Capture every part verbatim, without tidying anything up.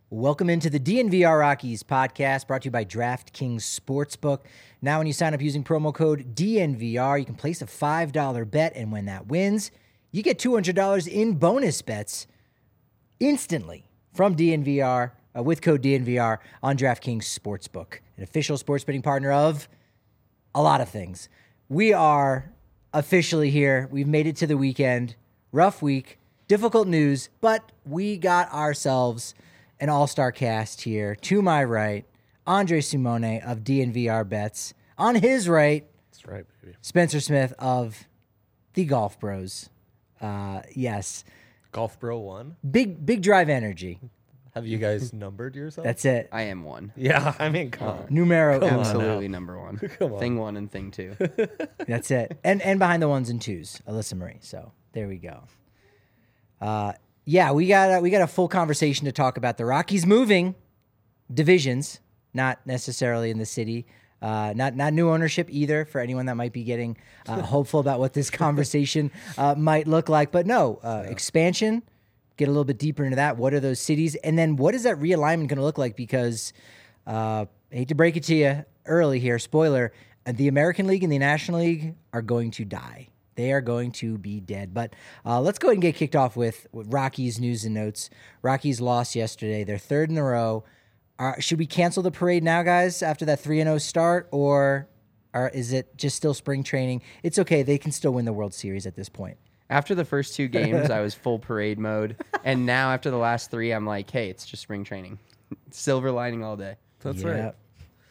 Welcome into the D N V R Rockies podcast brought to you by DraftKings Sportsbook. Now when you sign up using promo code D N V R, you can place a five dollar bet, and when that wins, you get two hundred dollars in bonus bets instantly from D N V R uh, with code D N V R on DraftKings Sportsbook, an official sports betting partner of a lot of things. We are officially here. We've made it to the weekend. Rough week, difficult news, but we got ourselves an all-star cast here. To my right, Andre Simone of D N V R Bets. On his right, that's right, baby. Spencer Smith of the Golf Bros. Uh, yes. Golf Bro one? Big big drive energy. Have you guys numbered yourself? That's it. I am one. Yeah, I mean, come on. Numero Come uno. on Absolutely now. number one. Come on. Thing one and thing two. That's it. And and behind the ones and twos, Alyssa Marie. So there we go. Uh, yeah, we got a, we got a full conversation to talk about the Rockies moving divisions, not necessarily in the city. Uh, not not new ownership either for anyone that might be getting uh, hopeful about what this conversation uh, might look like. But no, uh, yeah. Expansion, get a little bit deeper into that. What are those cities? And then what is that realignment going to look like? Because uh, I hate to break it to you early here, spoiler, uh, the American League and the National League are going to die. They are going to be dead. But uh, let's go ahead and get kicked off with, with Rockies news and notes. Rockies lost yesterday. They're third in a row. Are, should we cancel the parade now, guys, after that three and oh start? Or, or is it just still spring training? It's okay. They can still win the World Series at this point. After the first two games, I was full parade mode. And now after the last three, I'm like, hey, it's just spring training. Silver lining all day. That's Yep. right.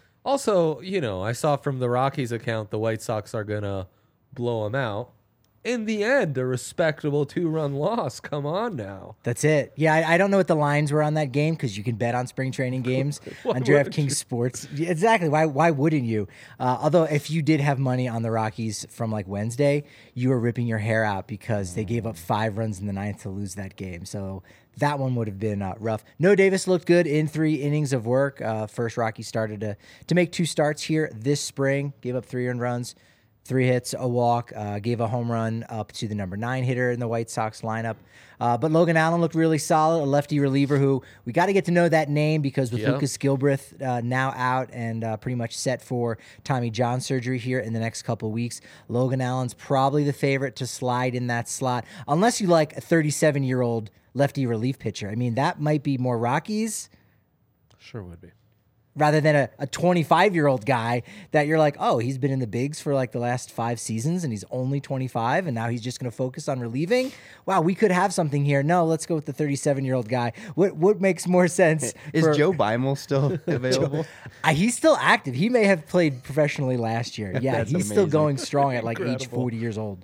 Also, you know, I saw from the Rockies account the White Sox are going to blow them out. In the end, a respectable two-run loss. Come on now. That's it. Yeah, I, I don't know what the lines were on that game because you can bet on spring training games on DraftKings Sports. Yeah, exactly. Why Why wouldn't you? Uh, although if you did have money on the Rockies from like Wednesday, you were ripping your hair out because they gave up five runs in the ninth to lose that game. So that one would have been uh, rough. No Davis looked good in three innings of work. Uh, first Rocky started to, to make two starts here this spring. Gave up three earned runs. Three hits, a walk, uh, gave a home run up to the number nine hitter in the White Sox lineup. Uh, but Logan Allen looked really solid, a lefty reliever who we got to get to know that name because with Yep. Lucas Gilbreth uh, now out and uh, pretty much set for Tommy John surgery here in the next couple of weeks, Logan Allen's probably the favorite to slide in that slot, unless you like a thirty-seven-year-old lefty relief pitcher. I mean, that might be more Rockies Sure would be. rather than a, a twenty-five-year-old guy that you're like, oh, he's been in the bigs for like the last five seasons and he's only twenty-five and now he's just going to focus on relieving. Wow, we could have something here. No, let's go with the thirty-seven-year-old guy. What what makes more sense? Is for, Joe Beimel still available? uh, he's still active. He may have played professionally last year. Yeah, That's he's still amazing. going strong at like age Incredible. forty years old.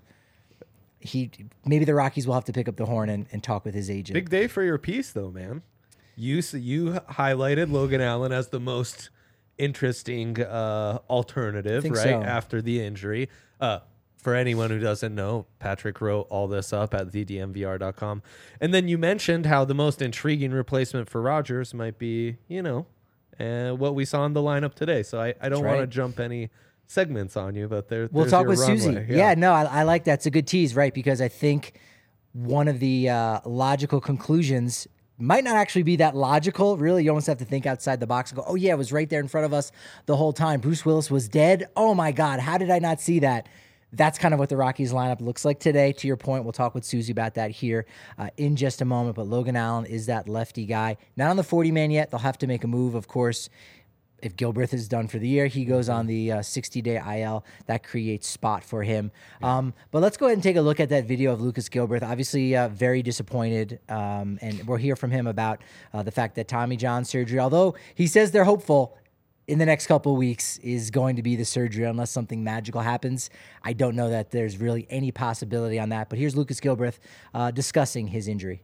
He Maybe the Rockies will have to pick up the horn and, and talk with his agent. Big day for your piece, though, man. You s- you highlighted Logan Allen as the most interesting uh, alternative, Think right, so. after the injury. Uh, for anyone who doesn't know, Patrick wrote all this up at the D M V R dot com. And then you mentioned how the most intriguing replacement for Rogers might be, you know, uh, what we saw in the lineup today. So I, I don't right. want to jump any segments on you, but there, We'll there's talk your with runway. Susie. Yeah, no, I, I like that. It's a good tease, right? Because I think one of the uh, logical conclusions might not actually be that logical. Really, you almost have to think outside the box and go, oh, yeah, it was right there in front of us the whole time. Bruce Willis was dead. Oh, my God, how did I not see that? That's kind of what the Rockies lineup looks like today. To your point, we'll talk with Susie about that here uh, in just a moment. But Logan Allen is that lefty guy. Not on the forty-man yet. They'll have to make a move, of course. If Gilbreth is done for the year, he goes on the uh, sixty-day I L. That creates spot for him. Um, but let's go ahead and take a look at that video of Lucas Gilbreth. Obviously, uh, very disappointed, um, and we'll hear from him about uh, the fact that Tommy John surgery, although he says they're hopeful in the next couple of weeks, is going to be the surgery unless something magical happens. I don't know that there's really any possibility on that. But here's Lucas Gilbreth uh, discussing his injury.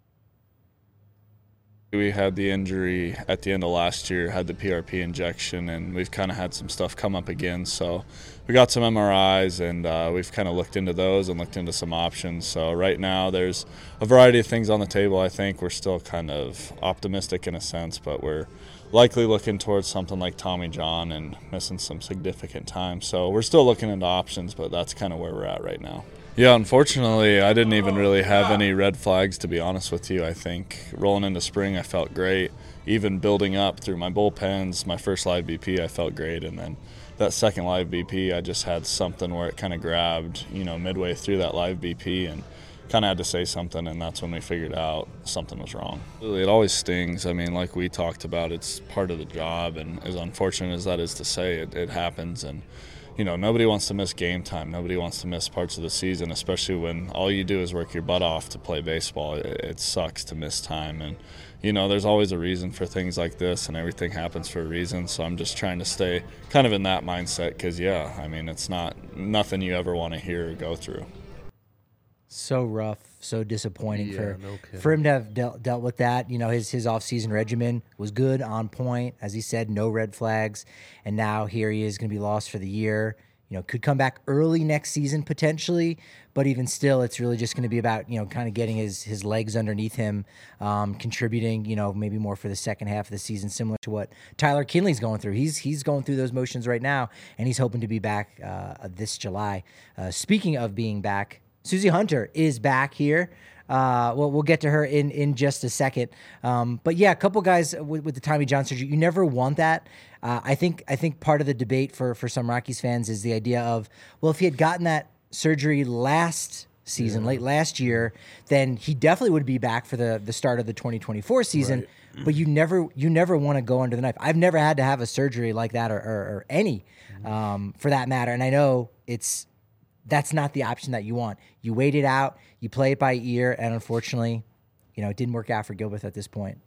We had the injury at the end of last year, had the P R P injection, and we've kind of had some stuff come up again. So we got some M R Is, and uh, we've kind of looked into those and looked into some options. So right now there's a variety of things on the table. I think we're still kind of optimistic in a sense, but we're likely looking towards something like Tommy John and missing some significant time. So we're still looking into options, but that's kind of where we're at right now. Yeah, unfortunately, I didn't even really have any red flags, to be honest with you. I think rolling into spring, I felt great. Even building up through my bullpens, my first live B P, I felt great. And then that second live B P, I just had something where it kind of grabbed, you know, midway through that live B P and kind of had to say something, and that's when we figured out something was wrong. It always stings. I mean, like we talked about, it's part of the job, and as unfortunate as that is to say, it, it happens. And you know, nobody wants to miss game time. Nobody wants to miss parts of the season, especially when all you do is work your butt off to play baseball. It, it sucks to miss time. And, you know, there's always a reason for things like this, and everything happens for a reason. So I'm just trying to stay kind of in that mindset because, yeah, I mean, it's not nothing you ever want to hear or go through. So rough, so disappointing Yeah, for no kidding. for him to have dealt, dealt with that. You know, his his off-season regimen was good, on point, as he said, no red flags, and now here he is going to be lost for the year. You know, could come back early next season potentially, but even still, it's really just going to be about, you know, kind of getting his his legs underneath him, um, contributing, you know, maybe more for the second half of the season, similar to what Tyler Kinley's going through. He's he's going through those motions right now, and he's hoping to be back uh, this July. Uh, speaking of being back, Susie Hunter is back here. Uh, well, we'll get to her in, in just a second. Um, but yeah, a couple guys with, with the Tommy John surgery, you never want that. Uh, I think I think part of the debate for, for some Rockies fans is the idea of, well, if he had gotten that surgery last season, yeah. late last year, then he definitely would be back for the, the start of the twenty twenty-four season. Right. But you never you never want to go under the knife. I've never had to have a surgery like that or, or, or any um, for that matter. And I know it's that's not the option that you want. You wait it out, you play it by ear, and unfortunately, you know, it didn't work out for Gilbert at this point.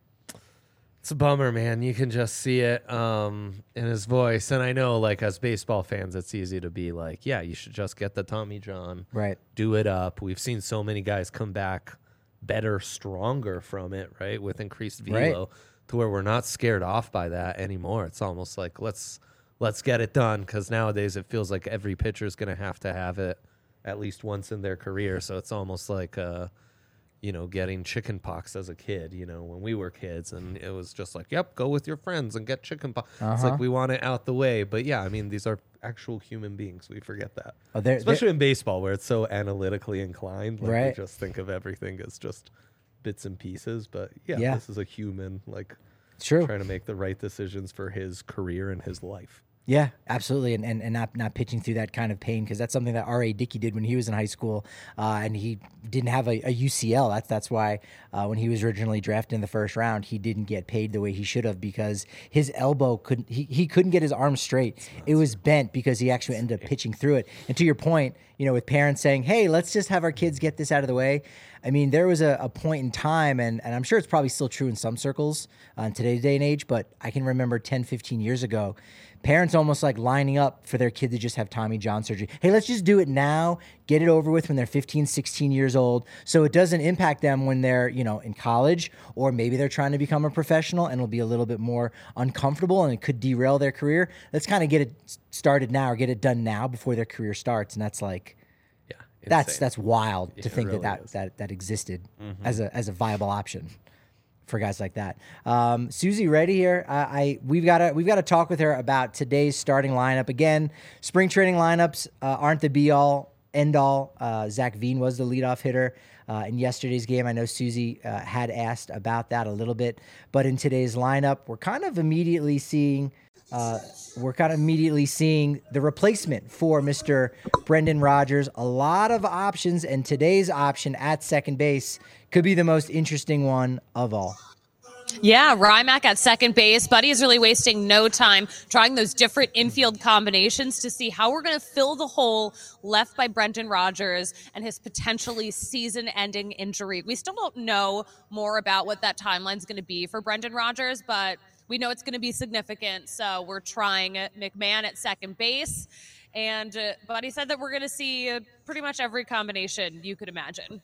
It's a bummer, man. You can just see it um, in his voice. And I know, like, as baseball fans, it's easy to be like, yeah, you should just get the Tommy John. Right. Do it up. We've seen so many guys come back better, stronger from it, right, with increased velo, right. to where we're not scared off by that anymore. It's almost like, let's let's get it done, because nowadays it feels like every pitcher is going to have to have it at least once in their career. So it's almost like, uh, you know, getting chicken pox as a kid, you know, when we were kids, and it was just like, yep, go with your friends and get chicken pox. Uh-huh. It's like we want it out the way. But yeah, I mean, these are actual human beings. We forget that. Oh, they're, Especially they're, in baseball, where it's so analytically inclined. Like, right. we just think of everything as just bits and pieces. But yeah, yeah. this is a human, like, True. trying to make the right decisions for his career and his life. Yeah, absolutely, and and, and not, not pitching through that kind of pain, because that's something that R A. Dickey did when he was in high school, uh, and he didn't have a, a U C L. That's that's why uh, when he was originally drafted in the first round, he didn't get paid the way he should have, because his elbow couldn't he, he couldn't get his arm straight. It was bent because he actually ended up pitching through it. And to your point, you know, with parents saying, "Hey, let's just have our kids get this out of the way." I mean, there was a, a point in time, and, and I'm sure it's probably still true in some circles uh, in today's day and age, but I can remember ten, fifteen years ago, parents almost like lining up for their kid to just have Tommy John surgery. Hey, let's just do it now, get it over with when they're fifteen, sixteen years old, so it doesn't impact them when they're, you know, in college, or maybe they're trying to become a professional and it'll be a little bit more uncomfortable and it could derail their career. Let's kind of get it started now, or get it done now before their career starts. And that's like, yeah, that's insane. that's wild Yeah, to think really that, that is. that that existed Mm-hmm. as a as a viable option for guys like that. Um, Susie Reddy here. I, I we've got to we've got to talk with her about today's starting lineup. Again, spring training lineups uh, aren't the be all end all. Uh, Zach Veen was the leadoff hitter uh, in yesterday's game. I know Susie uh, had asked about that a little bit, but in today's lineup, we're kind of immediately seeing. Uh, we're kind of immediately seeing the replacement for Mister Brendan Rodgers. A lot of options, and today's option at second base could be the most interesting one of all. Yeah, Rymack at second base. Buddy is really wasting no time trying those different infield combinations to see how we're going to fill the hole left by Brendan Rodgers and his potentially season-ending injury. We still don't know more about what that timeline is going to be for Brendan Rodgers, but we know it's going to be significant, so we're trying McMahon at second base. And uh, Buddy said that we're going to see uh, pretty much every combination you could imagine.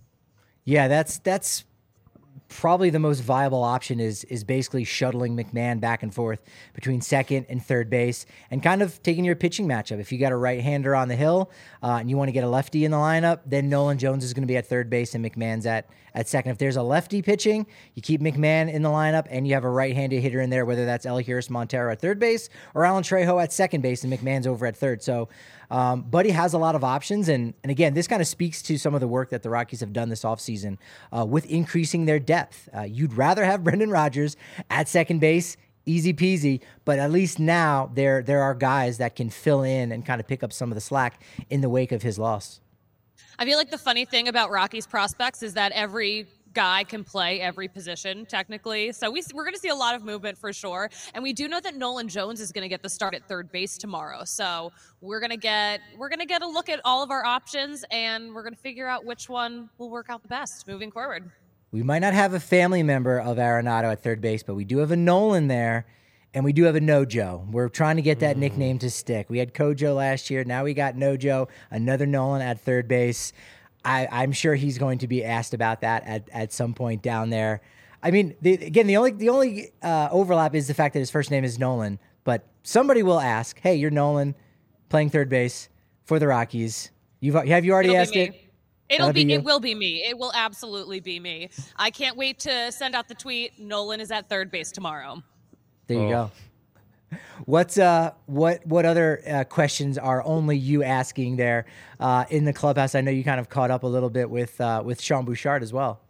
Yeah, that's that's probably the most viable option is is basically shuttling McMahon back and forth between second and third base and kind of taking your pitching matchup. If you got a right-hander on the hill uh, and you want to get a lefty in the lineup, then Nolan Jones is going to be at third base and McMahon's at, at second. If there's a lefty pitching, you keep McMahon in the lineup and you have a right-handed hitter in there, whether that's Elihuris Montero at third base or Alan Trejo at second base, and McMahon's over at third. So Um, Buddy has a lot of options. And, and again, this kind of speaks to some of the work that the Rockies have done this offseason uh, with increasing their depth. Uh, you'd rather have Brendan Rodgers at second base, easy peasy, but at least now there, there are guys that can fill in and kind of pick up some of the slack in the wake of his loss. I feel like the funny thing about Rockies prospects is that every guy can play every position technically. So we, we're going to see a lot of movement for sure. And we do know that Nolan Jones is going to get the start at third base tomorrow. So we're going to get, we're going to get a look at all of our options and we're going to figure out which one will work out the best moving forward. We might not have a family member of Arenado at third base, but we do have a Nolan there. And we do have a Nojo. We're trying to get that mm. nickname to stick. We had Kojo last year. Now we got Nojo, another Nolan at third base. I, I'm sure he's going to be asked about that at, at some point down there. I mean, the, again, the only the only uh, overlap is the fact that his first name is Nolan. But somebody will ask, "Hey, you're Nolan, playing third base for the Rockies. You've have you already It'll asked it?" It'll That'll be, be it will be me. It will absolutely be me. I can't wait to send out the tweet. Nolan is at third base tomorrow. There you Oh. go. What's uh what what other uh, questions are only you asking there uh, in the clubhouse? I know you kind of caught up a little bit with uh, with Sean Bouchard as well.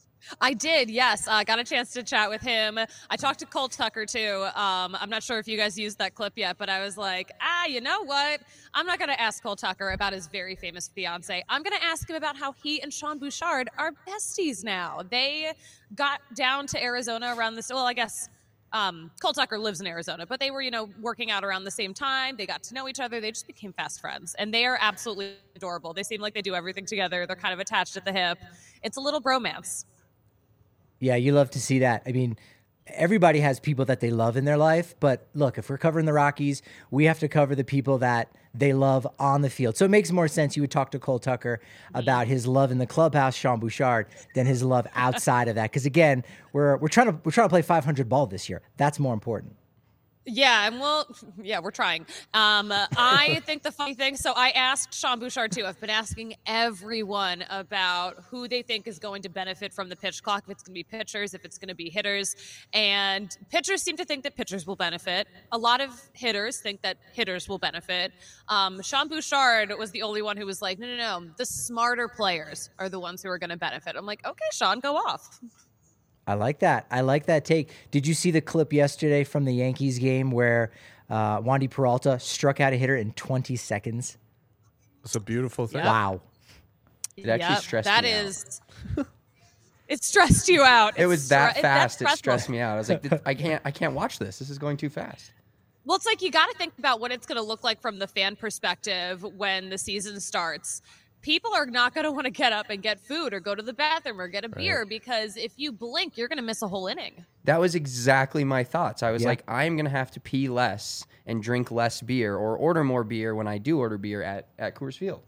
I did, yes. I uh, got a chance to chat with him. I talked to Cole Tucker, too. Um, I'm not sure if you guys used that clip yet, but I was like, ah, you know what? I'm not going to ask Cole Tucker about his very famous fiance. I'm going to ask him about how he and Sean Bouchard are besties now. They got down to Arizona around this, well, I guess um, Cole Tucker lives in Arizona, but they were, you know, working out around the same time. They got to know each other. They just became fast friends, and they are absolutely adorable. They seem like they do everything together. They're kind of attached at the hip. It's a little bromance. Yeah, you love to see that. I mean, everybody has people that they love in their life, but look, if we're covering the Rockies, we have to cover the people that they love on the field. So it makes more sense you would talk to Cole Tucker about his love in the clubhouse, Sean Bouchard, than his love outside of that. Because again, we're we're trying to we're trying to play five hundred ball this year. That's more important. Yeah, and well, yeah, we're trying. Um, I think the funny thing, so I asked Sean Bouchard too. I've been asking everyone about who they think is going to benefit from the pitch clock, if it's going to be pitchers, if it's going to be hitters. And pitchers seem to think that pitchers will benefit. A lot of hitters think that hitters will benefit. Um, Sean Bouchard was the only one who was like, no, no, no, the smarter players are the ones who are going to benefit. I'm like, okay, Sean, go off. I like that. I like that take. Did you see the clip yesterday from the Yankees game where uh, Wandy Peralta struck out a hitter in twenty seconds? It's a beautiful thing. Yeah. Wow. It actually Yep, stressed that me out. is, it stressed you out. It It's was that stre- fast. that's It stressed me out. I was like, "Th- I can't, I can't watch this. This is going too fast. Well, it's like you got to think about what it's going to look like from the fan perspective when the season starts. People are not going to want to get up and get food or go to the bathroom or get a beer because if you blink, you're going to miss a whole inning. That was exactly my thoughts. I was Yeah. like, I'm going to have to pee less and drink less beer or order more beer when I do order beer at, at Coors Field.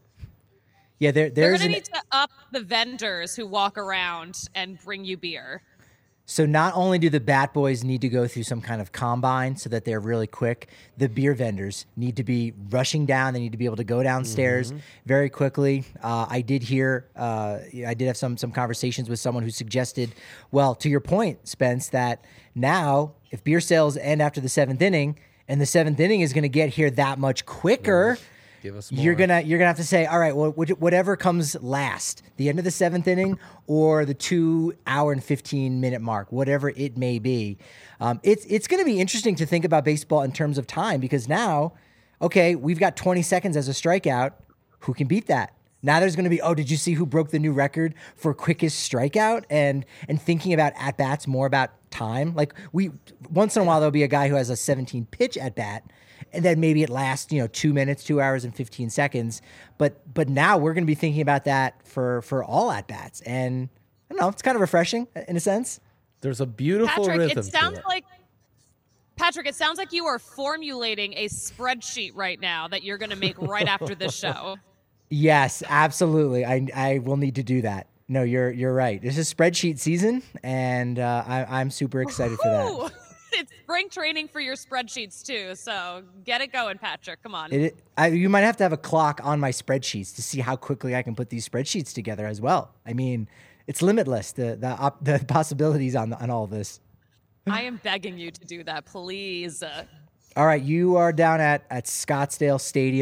Yeah, there, They're there's going to an, need to up the vendors who walk around and bring you beer. So not only do the bat boys need to go through some kind of combine so that they're really quick, the beer vendors need to be rushing down. They need to be able to go downstairs Mm-hmm. very quickly. Uh, I did hear, uh, I did have some some conversations with someone who suggested, well, to your point, Spence, that now if beer sales end after the seventh inning, and the seventh inning is going to get here that much quicker. Give us You're more. gonna you're gonna have to say, all right, well, which- whatever comes last, the end of the seventh inning or the two hour and fifteen minute mark, whatever it may be. Um, it's it's gonna be interesting to think about baseball in terms of time because now, okay, we've got twenty seconds as a strikeout. Who can beat that? Now there's going to be, oh, did you see who broke the new record for quickest strikeout? And and thinking about at bats more about time. Like we once in a while there'll be a guy who has a seventeen pitch at bat. And then maybe it lasts, you know, two minutes, two hours and fifteen seconds. But but now we're going to be thinking about that for for all at bats, and I don't know, it's kind of refreshing in a sense. There's a beautiful Patrick, rhythm it sounds to it. like Patrick, it sounds like you are formulating a spreadsheet right now that you're going to make right after this show. Yes, absolutely. I I will need to do that. No, you're you're right. This is spreadsheet season, and uh, I, I'm super excited for that. Ooh, it's spring training for your spreadsheets too, so get it going, Patrick. Come on. It, I, you might have to have a clock on my spreadsheets to see how quickly I can put these spreadsheets together as well. I mean, it's limitless the the op, the possibilities on on all of this. I am begging you to do that, please. Uh, All right, you are down at at Scottsdale Stadium.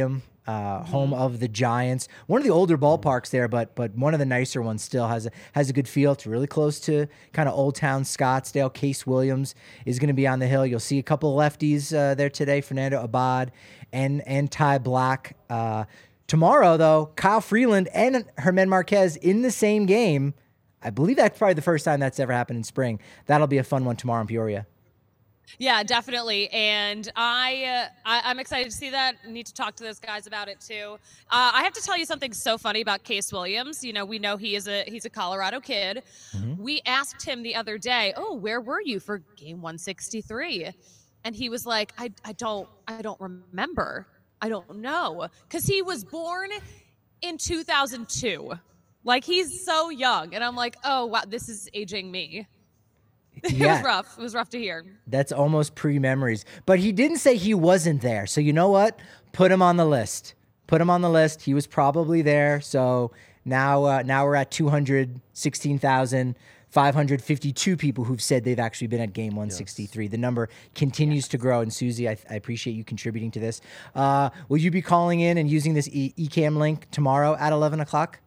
uh, home of the Giants. One of the older ballparks there, but but one of the nicer ones still has a, has a good feel. It's really close to kind of Old Town Scottsdale. Case Williams is going to be on the hill. You'll see a couple of lefties uh, there today, Fernando Abad and, and Ty Black. Uh, tomorrow, though, Kyle Freeland and Herman Marquez in the same game. I believe that's probably the first time that's ever happened in spring. That'll be a fun one tomorrow in Peoria. Yeah, definitely. And I, uh, I, I'm excited to see that. Need to talk to those guys about it too. Uh, I have to tell you something so funny about Case Williams. You know, we know he is a he's a Colorado kid. Mm-hmm. We asked him the other day, "Oh, where were you for game one sixty-three?" And he was like, "I I don't I don't remember. I don't know," because he was born in two thousand two. Like, he's so young, and I'm like, "Oh wow, this is aging me." It Yeah. was rough. It was rough to hear. That's almost pre-memories. But he didn't say he wasn't there. So you know what? Put him on the list. Put him on the list. He was probably there. So now uh, now we're at two hundred sixteen thousand five hundred fifty-two people who've said they've actually been at game one sixty-three. Yes. The number continues yes. to grow. And Susie, I, I appreciate you contributing to this. Uh, will you be calling in and using this e- eCam link tomorrow at eleven o'clock?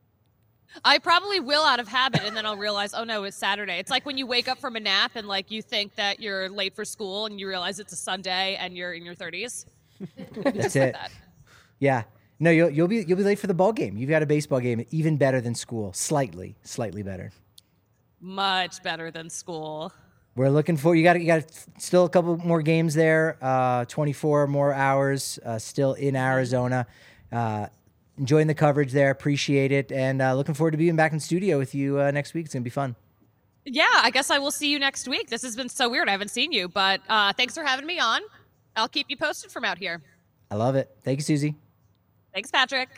I probably will out of habit, and then I'll realize, oh no, it's Saturday. It's like when you wake up from a nap and like you think that you're late for school and you realize it's a Sunday and you're in your thirties. That's it. Like that. Yeah. No, you'll you'll be you'll be late for the ball game. You've got a baseball game even better than school. Slightly, slightly better. Much better than school. We're looking for you got you got still a couple more games there. Uh, twenty-four more hours uh, still in Arizona. Uh, Enjoying the coverage there. Appreciate it. And uh, looking forward to being back in studio with you uh, next week. It's going to be fun. Yeah, I guess I will see you next week. This has been so weird. I haven't seen you, but uh, thanks for having me on. I'll keep you posted from out here. I love it. Thank you, Susie. Thanks, Patrick.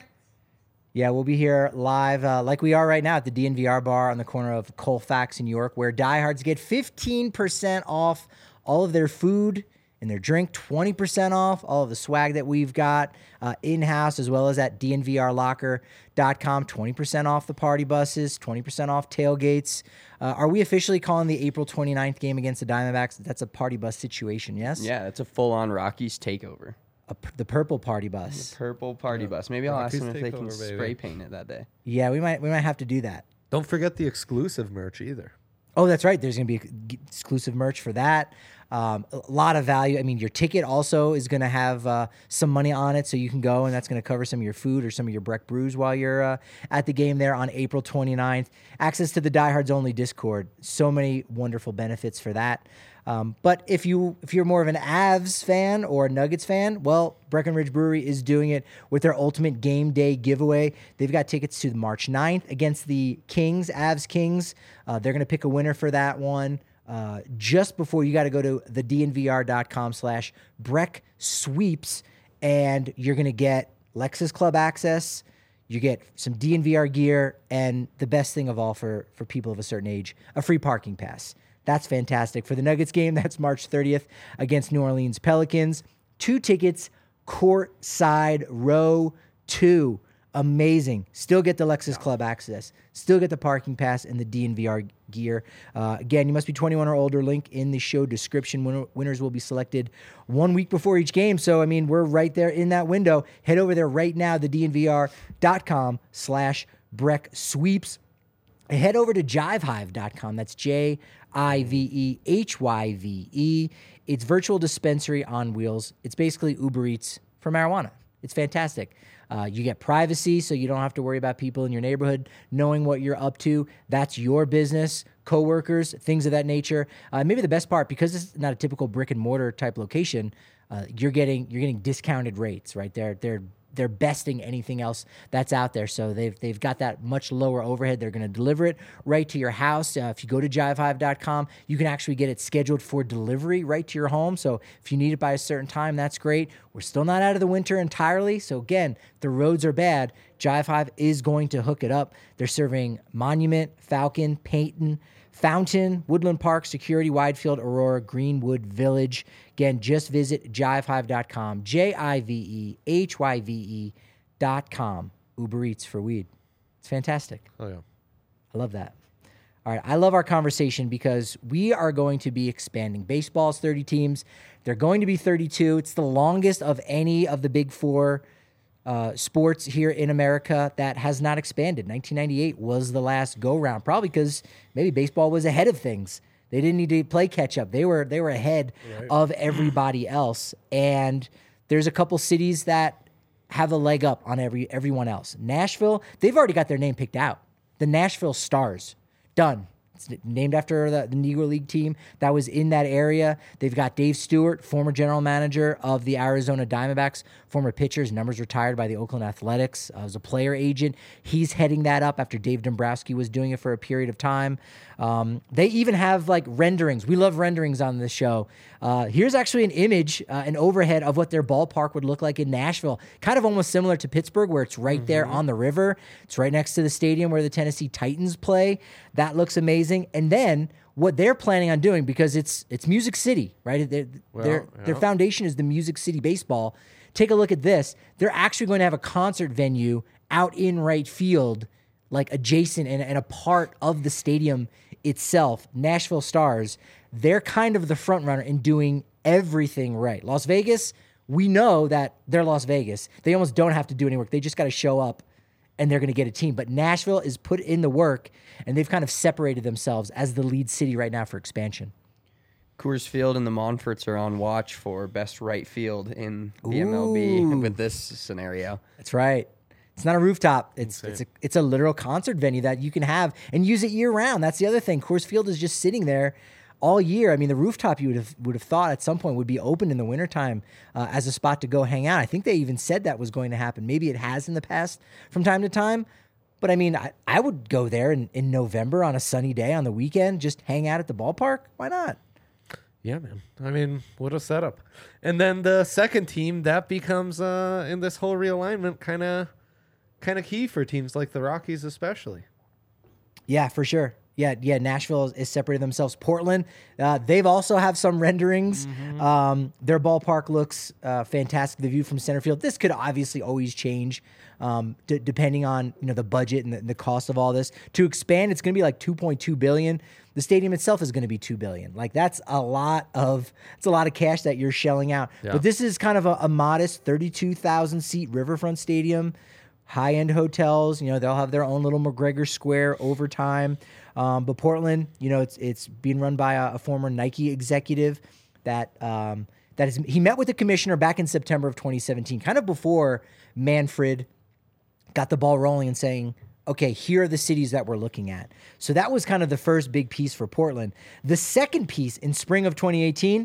Yeah, we'll be here live uh, like we are right now at the D N V R bar on the corner of Colfax in New York, where diehards get fifteen percent off all of their food and their drink, twenty percent off all of the swag that we've got uh, in-house, as well as at D N V R locker dot com, twenty percent off the party buses, twenty percent off tailgates. Uh, are we officially calling the April twenty-ninth game against the Diamondbacks? That's a party bus situation, yes? Yeah, it's a full-on Rockies takeover. A, the purple party bus. The purple party yeah. bus. Maybe I'll Rockies ask them if they can over, spray baby. paint it that day. Yeah, we might we might have to do that. Don't forget the exclusive merch either. Oh, that's right. There's going to be exclusive merch for that. Um, a lot of value. I mean, your ticket also is going to have uh, some money on it, so you can go, and that's going to cover some of your food or some of your Breck brews while you're uh, at the game there on April twenty-ninth. Access to the Diehards Only Discord. So many wonderful benefits for that. Um, but if you if you're more of an Avs fan or a Nuggets fan, well, Breckenridge Brewery is doing it with their Ultimate Game Day giveaway. They've got tickets to March ninth against the Kings, Avs Kings. Uh, they're going to pick a winner for that one. Uh, just before you got to go to the D N V R dot com slash Breck Sweeps, and you're going to get Lexus Club access. You get some D N V R gear, and the best thing of all for, for people of a certain age, a free parking pass. That's fantastic. For the Nuggets game, that's March thirtieth against New Orleans Pelicans. Two tickets, courtside row two. Amazing. Still get the Lexus Club access. Still get the parking pass and the D N V R gear. Uh, again, you must be twenty-one or older. Link in the show description. Winner, winners will be selected one week before each game. So, I mean, we're right there in that window. Head over there right now, the D N V R dot com slash Breck Sweeps. Head over to jive hive dot com. That's J I V E H Y V E. It's virtual dispensary on wheels. It's basically Uber Eats for marijuana. It's fantastic. Uh, you get privacy, so you don't have to worry about people in your neighborhood knowing what you're up to. That's your business, coworkers, things of that nature. Uh, maybe the best part, because it's not a typical brick and mortar type location, uh, you're getting you're getting discounted rates, right? They're they're they're besting anything else that's out there. So they've they've got that much lower overhead. They're going to deliver it right to your house. Uh, if you go to jive hive dot com, you can actually get it scheduled for delivery right to your home. So if you need it by a certain time, that's great. We're still not out of the winter entirely. So again, the roads are bad. Jive Hive is going to hook it up. They're serving Monument, Falcon, Peyton, Fountain, Woodland Park, Security, Widefield, Aurora, Greenwood Village. Again, just visit jive hive dot com, J I V E H Y V E dot com. Uber Eats for weed. It's fantastic. Oh, yeah. I love that. All right, I love our conversation because we are going to be expanding. Baseball's thirty teams. They're going to be thirty-two. It's the longest of any of the big four uh, sports here in America that has not expanded. nineteen ninety-eight was the last go round, probably because maybe baseball was ahead of things. They didn't need to play catch up. They were they were ahead right. of everybody else. And there's a couple cities that have a leg up on every everyone else. Nashville, they've already got their name picked out. The Nashville Stars, done. It's named after the, the Negro League team that was in that area. They've got Dave Stewart, former general manager of the Arizona Diamondbacks, former pitcher. His numbers retired by the Oakland Athletics. Uh, as a player agent, he's heading that up after Dave Dombrowski was doing it for a period of time. Um, they even have like renderings. We love renderings on this show. Uh, here's actually an image, uh, an overhead of what their ballpark would look like in Nashville. Kind of almost similar to Pittsburgh, where it's right mm-hmm. there on the river. It's right next to the stadium where the Tennessee Titans play. That looks amazing. And then what they're planning on doing, because it's it's Music City, right? They're, well, their yeah. their foundation is the Music City Baseball. Take a look at this. They're actually going to have a concert venue out in right field, like adjacent and, and a part of the stadium itself. Nashville Stars, they're kind of the front runner in doing everything right. Las Vegas, we know that they're Las Vegas. They almost don't have to do any work. They just got to show up and they're going to get a team. But Nashville is put in the work, and they've kind of separated themselves as the lead city right now for expansion. Coors Field and the Monforts are on watch for best right field in the Ooh. M L B with this scenario. That's right. It's not a rooftop. It's Insane. it's a it's a literal concert venue that you can have and use it year round. That's the other thing. Coors Field is just sitting there all year. I mean, the rooftop you would have would have thought at some point would be open in the wintertime uh, as a spot to go hang out. I think they even said that was going to happen. Maybe it has in the past from time to time. But I mean, I, I would go there in, in November on a sunny day on the weekend, just hang out at the ballpark. Why not? Yeah, man. I mean, what a setup. And then the second team, that becomes, uh, in this whole realignment, kind of kind of key for teams like the Rockies especially. Yeah, for sure. Yeah, yeah. Nashville is, is separated themselves. Portland, uh, they've also have some renderings. Mm-hmm. Um, their ballpark looks uh, fantastic. The view from center field. This could obviously always change um, d- depending on you know the budget and the, the cost of all this. To expand, it's going to be like two point two billion dollars. The stadium itself is going to be two billion dollars. Like that's a lot of it's a lot of cash that you're shelling out. Yeah. But this is kind of a, a modest thirty-two thousand seat riverfront stadium. High-end hotels, you know, they'll have their own little McGregor Square over time. Um, but Portland, you know, it's it's being run by a, a former Nike executive that um, that is he met with the commissioner back in September of twenty seventeen, kind of before Manfred got the ball rolling and saying, okay, here are the cities that we're looking at. So that was kind of the first big piece for Portland. The second piece in spring of twenty eighteen,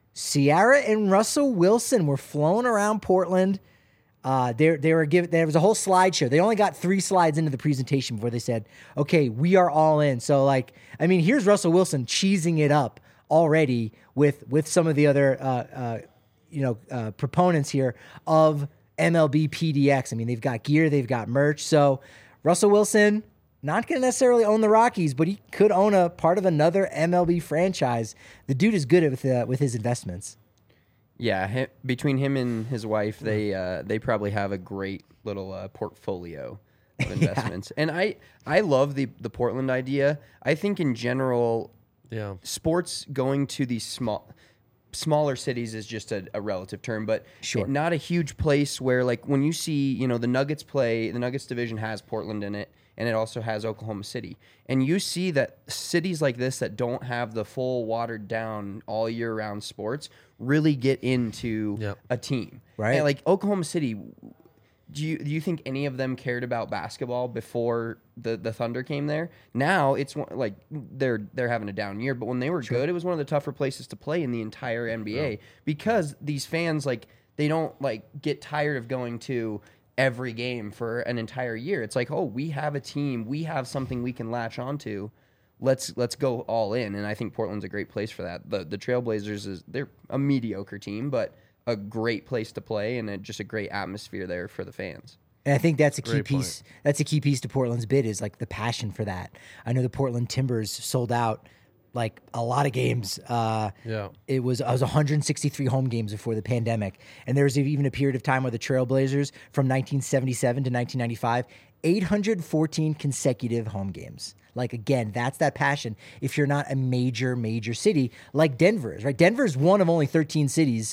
Ciara and Russell Wilson were flown around Portland. Uh, they they were given. There was a whole slideshow. They only got three slides into the presentation before they said, "Okay, we are all in." So, like, I mean, here's Russell Wilson cheesing it up already with with some of the other, uh, uh, you know, uh, proponents here of M L B P D X. I mean, they've got gear, they've got merch. So, Russell Wilson not going to necessarily own the Rockies, but he could own a part of another M L B franchise. The dude is good with uh, with his investments. Yeah, him, between him and his wife, they uh, they probably have a great little uh, portfolio of investments. yeah. And I I love the the Portland idea. I think in general, yeah, sports going to these small smaller cities is just a, a relative term, but sure. not a huge place where like when you see you know the Nuggets play, the Nuggets division has Portland in it. And it also has Oklahoma City. And you see that cities like this that don't have the full watered down all year round sports really get into yep. a team. Right. And like Oklahoma City, do you do you think any of them cared about basketball before the, the Thunder came there? Now it's one, like they're they're having a down year, but when they were sure. good, it was one of the tougher places to play in the entire N B A yeah. because these fans like they don't like get tired of going to every game for an entire year. It's like, oh, we have a team, we have something we can latch onto. Let's let's go all in. And I think Portland's a great place for that. The the Trailblazers is they're a mediocre team, but a great place to play and a, just a great atmosphere there for the fans. And I think that's a key Great piece. point. That's a key piece to Portland's bid is like the passion for that. I know the Portland Timbers sold out like a lot of games. Uh, yeah, it was I was one hundred sixty-three home games before the pandemic, and there was even a period of time where the Trailblazers from nineteen seventy-seven to nineteen ninety-five, eight hundred fourteen consecutive home games. Like again, that's that passion. If you're not a major major city like Denver is, right? Denver is one of only thirteen cities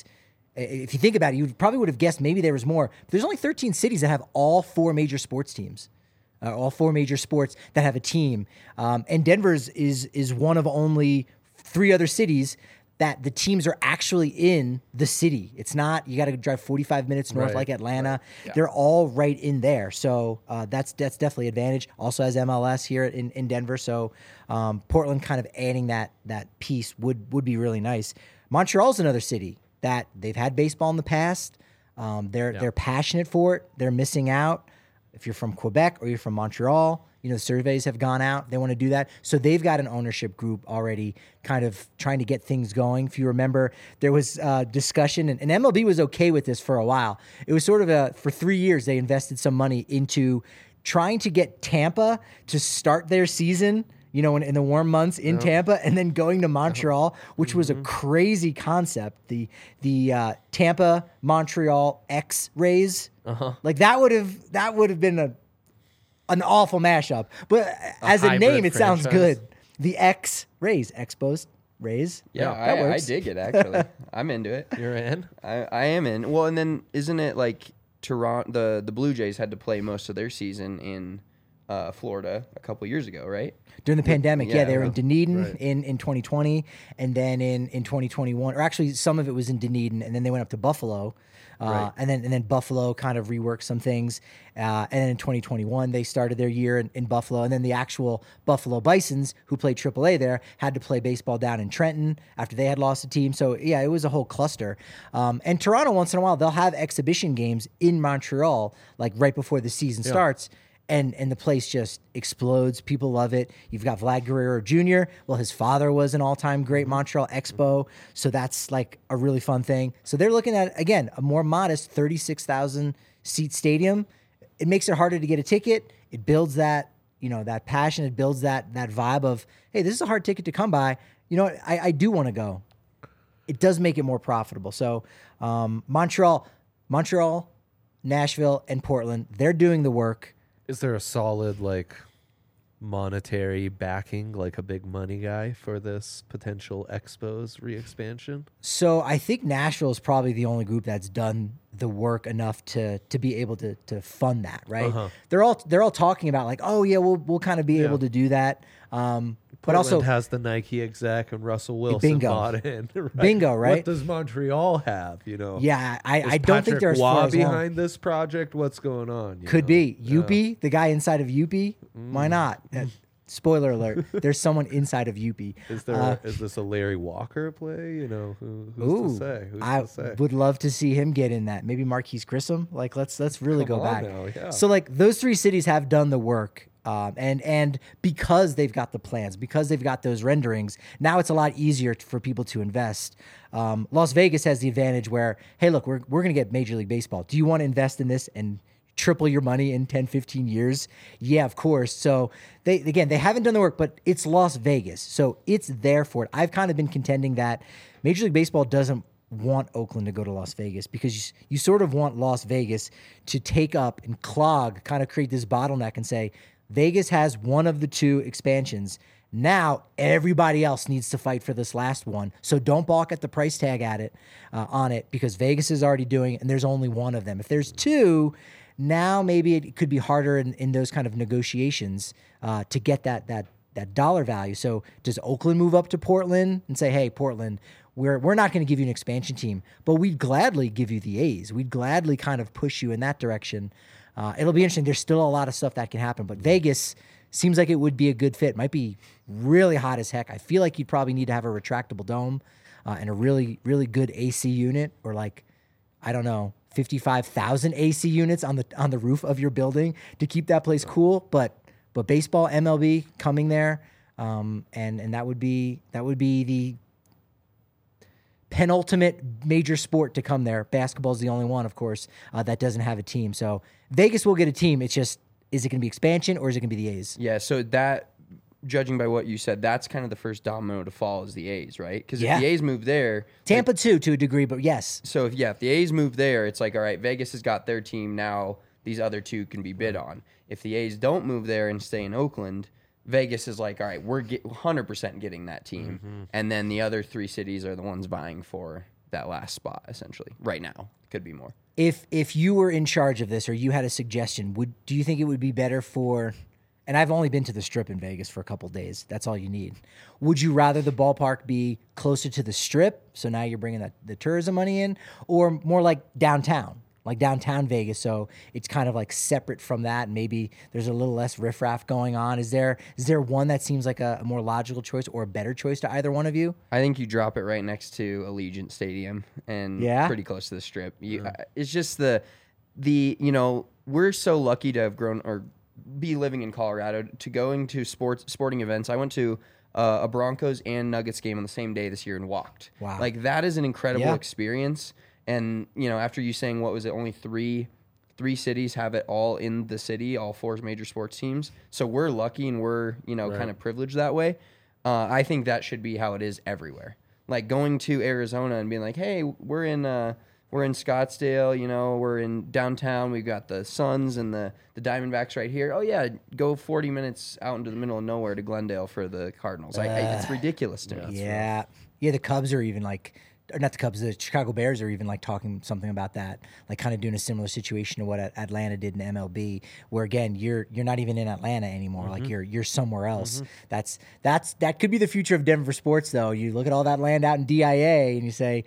If you think about it, you probably would have guessed maybe there was more. But there's only thirteen cities that have all four major sports teams, uh, all four major sports that have a team. Um, and Denver's is is one of only three other cities that the teams are actually in the city. It's not, you got to drive forty-five minutes north Right. like Atlanta. Yeah. They're all right in there. So uh, that's that's definitely an advantage. Also has M L S here in, in Denver. So um, Portland kind of adding that that piece would, would be really nice. Montreal's another city that they've had baseball in the past. Um, they're, Yeah. they're passionate for it. They're missing out. If you're from Quebec or you're from Montreal, you know, surveys have gone out. They want to do that. So they've got an ownership group already kind of trying to get things going. If you remember, there was uh, discussion, and, and M L B was okay with this for a while. It was sort of a, for three years, they invested some money into trying to get Tampa to start their season, you know, in, in the warm months in Yep. Tampa, and then going to Montreal, which Mm-hmm. was a crazy concept. The the uh, Tampa Montreal X Rays, Uh-huh. like that would have that would have been a an awful mashup. But as a hybrid name, it sounds franchise. good. The X Rays, Expos Rays. Yeah, that I, I works. dig it actually. I'm into it. You're in. I, I am in. Well, and then isn't it like Toronto? The the Blue Jays had to play most of their season in uh, Florida a couple years ago, right? During the pandemic, yeah, Yeah, they were in Dunedin right. in, in twenty twenty, and then in, in twenty twenty-one, or actually some of it was in Dunedin, and then they went up to Buffalo, uh, Right. and then and then Buffalo kind of reworked some things, uh, and then in twenty twenty-one they started their year in, in Buffalo, and then the actual Buffalo Bisons, who played triple A there, had to play baseball down in Trenton after they had lost a team. So yeah, it was a whole cluster. Um, and Toronto, once in a while, they'll have exhibition games in Montreal, like right before the season starts. And and the place just explodes. People love it. You've got Vlad Guerrero Junior Well, his father was an all-time great Montreal Expo, so that's like a really fun thing. So they're looking at, again, a more modest thirty-six thousand seat stadium. It makes it harder to get a ticket. It builds that, you know, that passion. It builds that that vibe of, hey, this is a hard ticket to come by. You know what? I, I do want to go. It does make it more profitable. So um, Montreal, Montreal, Nashville, and Portland, they're doing the work. Is there a solid like monetary backing, like a big money guy for this potential Expos re-expansion? So I think Nashville is probably the only group that's done the work enough to to be able to to fund that, right? Uh-huh. They're all they're all talking about like, oh yeah, we'll we'll kind of be Yeah. able to do that. Um, but Portland also has the Nike exec and Russell Wilson Bingo. bought in. Right? Bingo, right? What does Montreal have? You know? yeah, I, Is I don't think Patrick they're as Waugh far as along. behind this project. What's going on? you Could know? be Yeah. Mm. Youppi, the guy inside of Youppi. Why not? Uh, spoiler alert: there's someone inside of Youppi. Is there? Uh, is this a Larry Walker play? You know, who, who's Ooh, to say? Who's I to say? would love to see him get in that. Maybe Marquise Grissom. Like, let's let's really Come go on back. now, yeah. So, like, those three cities have done the work, um, and and because they've got the plans, because they've got those renderings, now it's a lot easier t- for people to invest. Um, Las Vegas has the advantage where, hey, look, we're we're gonna get Major League Baseball. Do you want to invest in this and triple your money in ten, fifteen years? Yeah, of course. So they, again, they haven't done the work, but it's Las Vegas. So it's there for it. I've kind of been contending that Major League Baseball doesn't want Oakland to go to Las Vegas because you, you sort of want Las Vegas to take up and clog, kind of create this bottleneck and say, Vegas has one of the two expansions. Now everybody else needs to fight for this last one. So don't balk at the price tag at it, uh, on it, because Vegas is already doing it and there's only one of them. If there's two, now maybe it could be harder in, in those kind of negotiations uh, to get that that that dollar value. So does Oakland move up to Portland and say, hey, Portland, we're we're not going to give you an expansion team, but we'd gladly give you the A's. We'd gladly kind of push you in that direction. Uh, it'll be interesting. There's still a lot of stuff that can happen, but Vegas seems like it would be a good fit. Might be really hot as heck. I feel like you'd probably need to have a retractable dome uh, and a really, really good A C unit, or like, I don't know, fifty-five thousand A C units on the on the roof of your building to keep that place cool. But but baseball, M L B coming there, um, and and that would be that would be the penultimate major sport to come there. Basketball is the only one, of course, uh, that doesn't have a team. So Vegas will get a team. It's just, is it going to be expansion or is it going to be the A's? Yeah, so that, judging by what you said, that's kind of the first domino to fall is the A's, right? Because Yeah. if the A's move there, Tampa too, to a degree, but yes. so if yeah, if the A's move there, it's like, all right, Vegas has got their team now. These other two can be bid on. If the A's don't move there and stay in Oakland, Vegas is like, all right, we're get, one hundred percent getting that team, Mm-hmm. and then the other three cities are the ones vying for that last spot essentially right now. Could be more. If if you were in charge of this or you had a suggestion, would do you think it would be better for, and I've only been to the Strip in Vegas for a couple days. That's all you need. Would you rather the ballpark be closer to the Strip, so now you're bringing the, the tourism money in, or more like downtown, like downtown Vegas, so it's kind of like separate from that, and maybe there's a little less riffraff going on? Is there is there one that seems like a, a more logical choice or a better choice to either one of you? I think you drop it right next to Allegiant Stadium and Yeah? pretty close to the Strip. You, uh, it's just the the you know we're so lucky to have grown or be living in Colorado to going to sports sporting events. I went to uh, a Broncos and Nuggets game on the same day this year and walked. Wow. Like that is an incredible Yeah. experience. And you know, after you saying what was it, only three three cities have it all in the city, all four major sports teams. So we're lucky and we're you know Right. kind of privileged that way. Uh, I think that should be how it is everywhere. Like going to Arizona and being like, hey, we're in uh, we're in Scottsdale, you know, we're in downtown. We've got the Suns and the the Diamondbacks right here. Oh yeah, go forty minutes out into the middle of nowhere to Glendale for the Cardinals. I, I, it's ridiculous to me. Yeah. Yeah, the Cubs are even like, or not the Cubs, the Chicago Bears are even like talking something about that, like kind of doing a similar situation to what At- Atlanta did in M L B, where again you're you're not even in Atlanta anymore, like you're you're somewhere else. That's that's that could be the future of Denver sports, though. You look at all that land out in D I A, and you say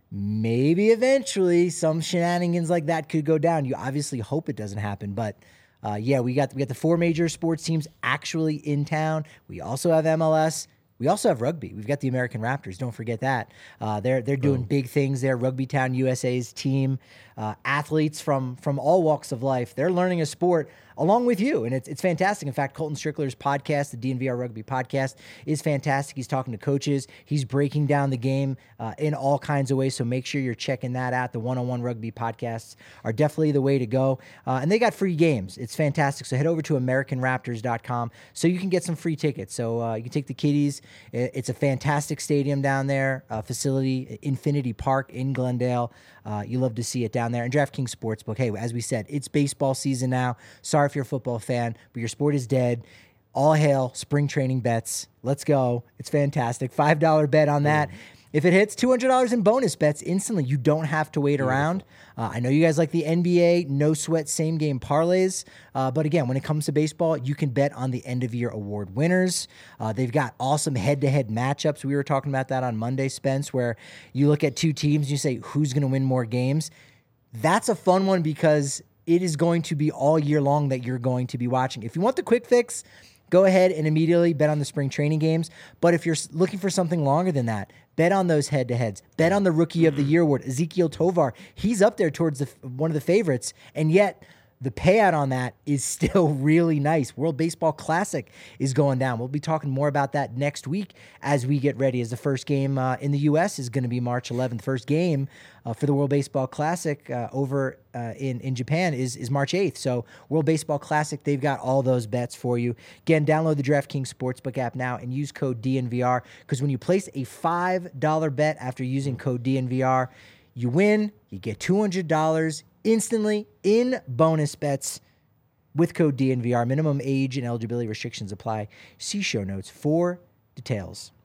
maybe eventually some shenanigans like that could go down. You obviously hope it doesn't happen, but. Uh, yeah, we got we got the four major sports teams actually in town. We also have M L S. We also have rugby. We've got the American Raptors. Don't forget that. Uh, they're they're doing big things there. Rugby Town U S A's team, uh, athletes from from all walks of life. They're learning a sport along with you, and it's it's fantastic. In fact, Colton Strickler's podcast, the D N V R Rugby Podcast, is fantastic. He's talking to coaches. He's breaking down the game uh, in all kinds of ways. So make sure you're checking that out. The one-on-one rugby podcasts are definitely the way to go, uh, and they got free games. It's fantastic. So head over to American Raptors dot com so you can get some free tickets. So uh, you can take the kiddies. It's a fantastic stadium down there, uh, facility, Infinity Park in Glendale. Uh, you love to see it down there. And DraftKings Sportsbook, hey, as we said, it's baseball season now. Sorry if you're a football fan, but your sport is dead. All hail spring training bets. Let's go. It's fantastic. five dollar bet on that. If it hits, two hundred dollars in bonus bets instantly. You don't have to wait around. Uh, I know you guys like the N B A, no sweat, same game parlays. Uh, but again, when it comes to baseball, you can bet on the end of year award winners. Uh, they've got awesome head to head matchups. We were talking about that on Monday, Spence, where you look at two teams, you say, who's going to win more games? That's a fun one because it is going to be all year long that you're going to be watching. If you want the quick fix, go ahead and immediately bet on the spring training games. But if you're looking for something longer than that, bet on those head-to-heads. Bet on the Rookie of the Year award, Ezekiel Tovar. He's up there towards the, one of the favorites, and yet the payout on that is still really nice. World Baseball Classic is going down. We'll be talking more about that next week as we get ready, as the first game uh, in the U S is going to be March eleventh. First game uh, for the World Baseball Classic uh, over uh, in, in Japan is, is March eighth. So World Baseball Classic, they've got all those bets for you. Again, download the DraftKings Sportsbook app now and use code D N V R, because when you place a five dollar bet after using code D N V R, you win, you get two hundred dollars instantly in bonus bets with code D N V R. Minimum age and eligibility restrictions apply. See show notes for details.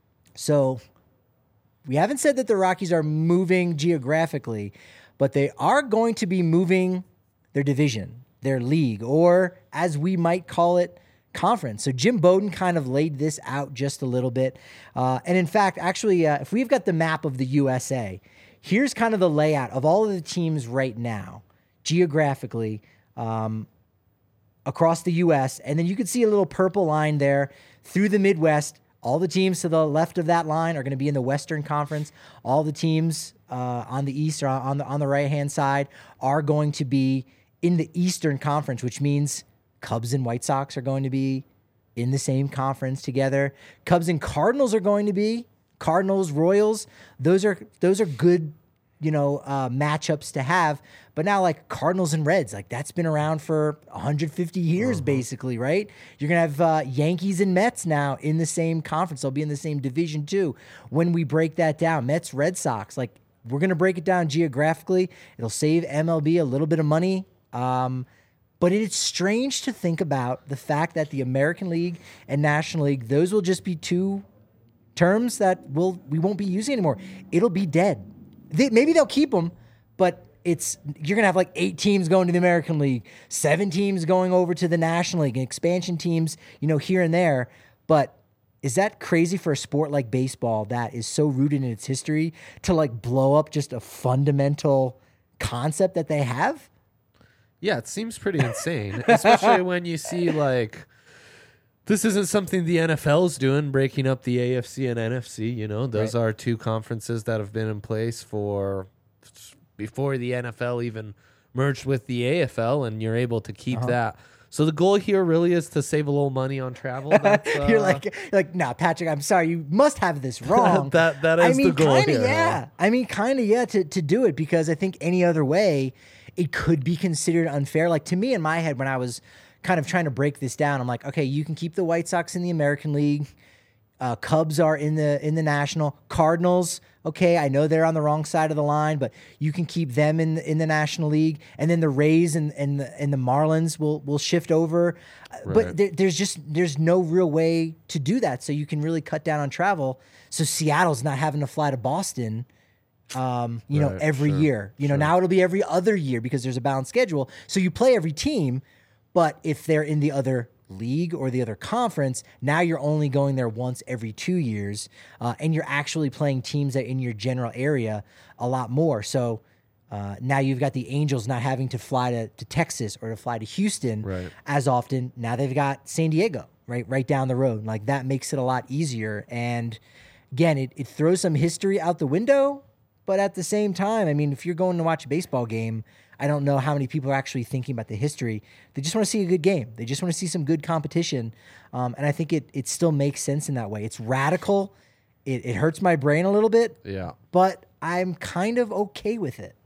So we haven't said that the Rockies are moving geographically, but they are going to be moving their division, their league, or as we might call it, conference. So Jim Bowden kind of laid this out just a little bit. Uh, and in fact, actually, uh, if we've got the map of the U S A, here's kind of the layout of all of the teams right now, geographically, um, across the U S. And then you can see a little purple line there through the Midwest. All the teams to the left of that line are going to be in the Western Conference. All the teams uh, on the east or on the on the right-hand side are going to be in the Eastern Conference, which means Cubs and White Sox are going to be in the same conference together. Cubs and Cardinals are going to be. Cardinals, Royals, those are those are good, you know, uh, matchups to have. But now, like Cardinals and Reds, like that's been around for one hundred fifty years, uh-huh. basically, right? You're gonna have uh, Yankees and Mets now in the same conference. They'll be in the same division too. When we break that down, Mets, Red Sox, like we're gonna break it down geographically. It'll save M L B a little bit of money. Um, But it's strange to think about the fact that the American League and National League, those will just be two terms that we'll, we won't be using anymore. It'll be dead. they, maybe they'll keep them, but it's you're gonna have like eight teams going to the American League, seven teams going over to the National League, and expansion teams, you know, here and there. But is that crazy for a sport like baseball that is so rooted in its history to like blow up just a fundamental concept that they have? Yeah, it seems pretty insane, especially when you see like this isn't something the N F L's doing, breaking up the A F C and N F C. You know, those Right. are two conferences that have been in place for before the N F L even merged with the A F L, and you're able to keep Uh-huh. that. So the goal here really is to save a little money on travel. That's, uh, You're like, you're like, nah, Patrick, I'm sorry, you must have this wrong. That- that I is the mean, goal kinda, here, yeah. huh? I mean, kind of, yeah, to, to do it, because I think any other way, it could be considered unfair. Like, to me, in my head, when I was kind of trying to break this down, I'm like, okay, you can keep the White Sox in the American League. Uh, Cubs are in the in the National. Cardinals, okay, I know they're on the wrong side of the line, but you can keep them in the, in the National League, and then the Rays and and the, and the Marlins will will shift over. Uh, Right. But there, there's just there's no real way to do that, so you can really cut down on travel. So Seattle's not having to fly to Boston, um, you know, Right, every sure, year. You know, now it'll be every other year because there's a balanced schedule. So you play every team, but if they're in the other league or the other conference, now you're only going there once every two years, uh, and you're actually playing teams that in your general area a lot more. So uh, now you've got the Angels not having to fly to, to Texas or to fly to Houston Right. as often. Now they've got San Diego right right down the road. Like, that makes it a lot easier. And again, it, it throws some history out the window, but at the same time, I mean, if you're going to watch a baseball game, I don't know how many people are actually thinking about the history. They just want to see a good game. They just want to see some good competition. Um, and I think it it still makes sense in that way. It's radical. It, it hurts my brain a little bit, yeah. but I'm kind of okay with it.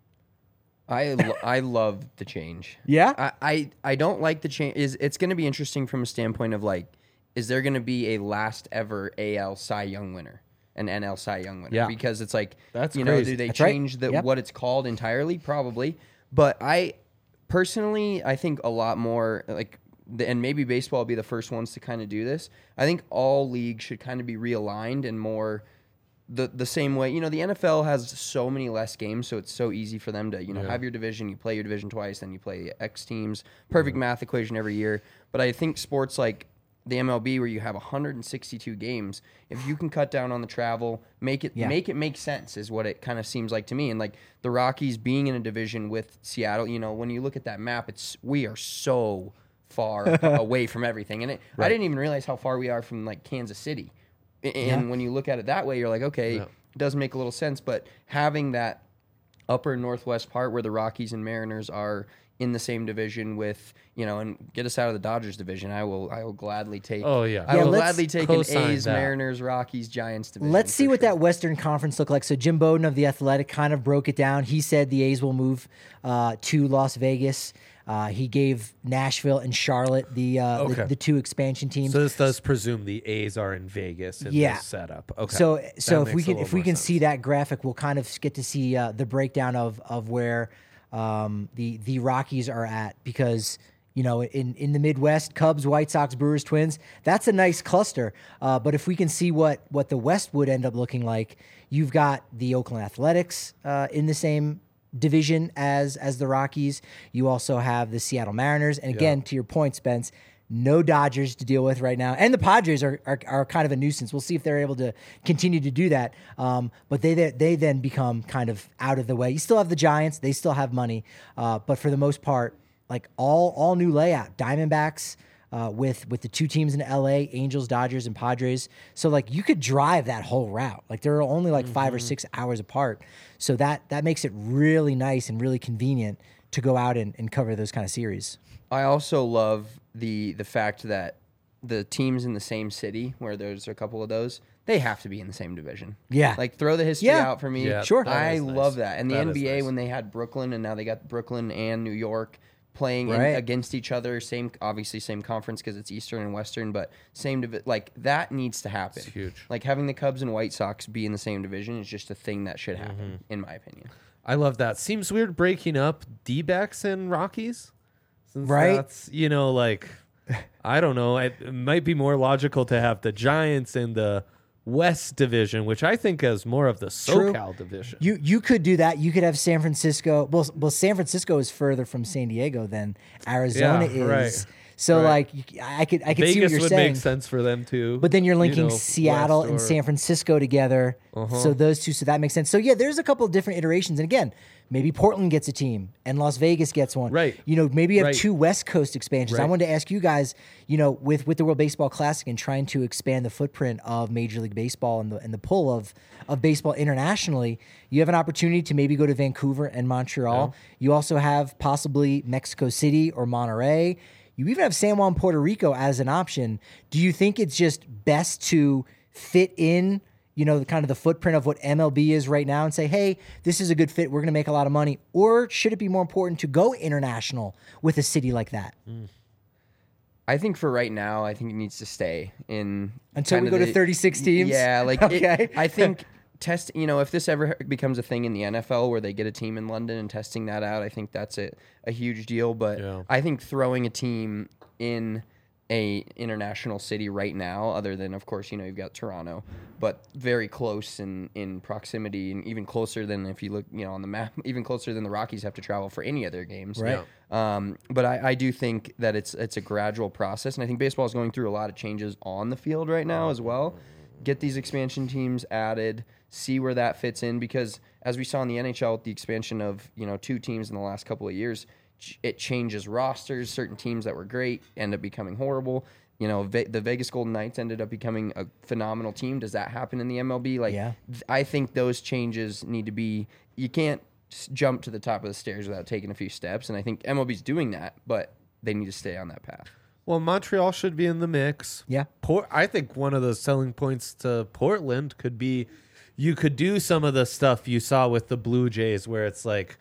I lo- I love the change. Yeah? I, I, I don't like the change. Is it's going to be interesting from a standpoint of like, is there going to be a last ever A L Cy Young winner, an N L Cy Young winner? Yeah. Because it's like, That's you know, crazy. do they That's right. change the Yep. what it's called entirely? Probably. But I personally, I think a lot more like, the, and maybe baseball will be the first ones to kind of do this. I think all leagues should kind of be realigned and more the the same way. You know, the N F L has so many less games, so it's so easy for them to, you know, have your division, you play your division twice, then you play X teams. Perfect math equation every year. But I think sports like the M L B, where you have one hundred sixty-two games, if you can cut down on the travel, make it Yeah. make it make sense, is what it kind of seems like to me. And like the Rockies being in a division with Seattle, you know, when you look at that map, it's we are so far away from everything. And it, I didn't even realize how far we are from like Kansas City. A- And Yeah. when you look at it that way, you're like, okay, Yeah. it does make a little sense. But having that upper northwest part where the Rockies and Mariners are in the same division with, you know, and get us out of the Dodgers division, I will I will gladly take. Oh, yeah. I Yeah, will let's gladly take an co-sign A's, that. Mariners, Rockies, Giants division. Let's see for what sure. that Western Conference look like. So Jim Bowden of The Athletic kind of broke it down. He said the A's will move uh, to Las Vegas. Uh, he gave Nashville and Charlotte the, uh, Okay. the the two expansion teams. So this does presume the A's are in Vegas in Yeah. this setup. Okay. So That so if we makes a can little if we more can sense. see that graphic, we'll kind of get to see uh, the breakdown of of where um, the the Rockies are at, because you know in in the Midwest, Cubs, White Sox, Brewers, Twins, that's a nice cluster. Uh, but if we can see what what the West would end up looking like, you've got the Oakland Athletics uh, in the same division as as the Rockies. You also have the Seattle Mariners, and again, to your point, Spence, no Dodgers to deal with right now, and the Padres are, are are kind of a nuisance. We'll see if they're able to continue to do that. Um, but they they then become kind of out of the way. You still have the Giants; they still have money, uh, but for the most part, like all all new layout. Diamondbacks. Uh, with with the two teams in L A, Angels, Dodgers, and Padres. So like you could drive that whole route. Like they're only like five or six hours apart. So that that makes it really nice and really convenient to go out and, and cover those kind of series. I also love the the fact that the teams in the same city, where there's a couple of those, they have to be in the same division. Yeah. Like throw the history Yeah. out for me. Yeah, Sure. that I is nice. love that. And the That N is B A, nice. when they had Brooklyn, and now they got Brooklyn and New York playing in, Right. against each other, same obviously same conference because it's Eastern and Western, but same divi- like that needs to happen. It's huge. Like having the Cubs and White Sox be in the same division is just a thing that should happen, Mm-hmm. in my opinion. I love that. Seems weird breaking up D-backs and Rockies. Since Right. That's, you know, like, I don't know. It, it might be more logical to have the Giants and the West Division, which I think is more of the SoCal division. You you could do that. You could have San Francisco. Well, well, San Francisco is further from San Diego than Arizona Yeah, is. right. So Right. like, you- I could I could see what Vegas you're would saying. make sense for them too. But then you're you linking know, Seattle West and or- San Francisco together. Uh-huh. So those two, so that makes sense. So yeah, there's a couple of different iterations. And again, maybe Portland gets a team and Las Vegas gets one. Right. You know, maybe you have Right. two West Coast expansions. I Right. wanted to ask you guys, you know, with, with the World Baseball Classic and trying to expand the footprint of Major League Baseball and the and the pull of of baseball internationally, you have an opportunity to maybe go to Vancouver and Montreal. You also have possibly Mexico City or Monterey. You even have San Juan, Puerto Rico as an option. Do you think it's just best to fit in, you know, the kind of the footprint of what M L B is right now and say, hey, this is a good fit. We're going to make a lot of money. Or should it be more important to go international with a city like that? I think for right now, I think it needs to stay in Until kind we of go to the- thirty-six teams? Yeah, like Okay. it, I think test. You know, if this ever becomes a thing in the N F L where they get a team in London and testing that out, I think that's a, a huge deal. But Yeah. I think throwing a team in a international city right now, other than of course you know you've got Toronto, but very close in in proximity and even closer than if you look you know on the map, even closer than the Rockies have to travel for any of their games. Right. Um, but I, I do think that it's it's a gradual process, and I think baseball is going through a lot of changes on the field right now as well. Get these expansion teams added, see where that fits in, because as we saw in the N H L with the expansion of you know two teams in the last couple of years, ch- it changes rosters. Certain teams that were great end up becoming horrible. You know, Ve- the Vegas Golden Knights ended up becoming a phenomenal team. Does that happen in the M L B? Like, Yeah. th- I think those changes need to be. You can't s- jump to the top of the stairs without taking a few steps, and I think M L B's doing that, but they need to stay on that path. Well, Montreal should be in the mix. Yeah. Port, I think one of the selling points to Portland could be you could do some of the stuff you saw with the Blue Jays where it's like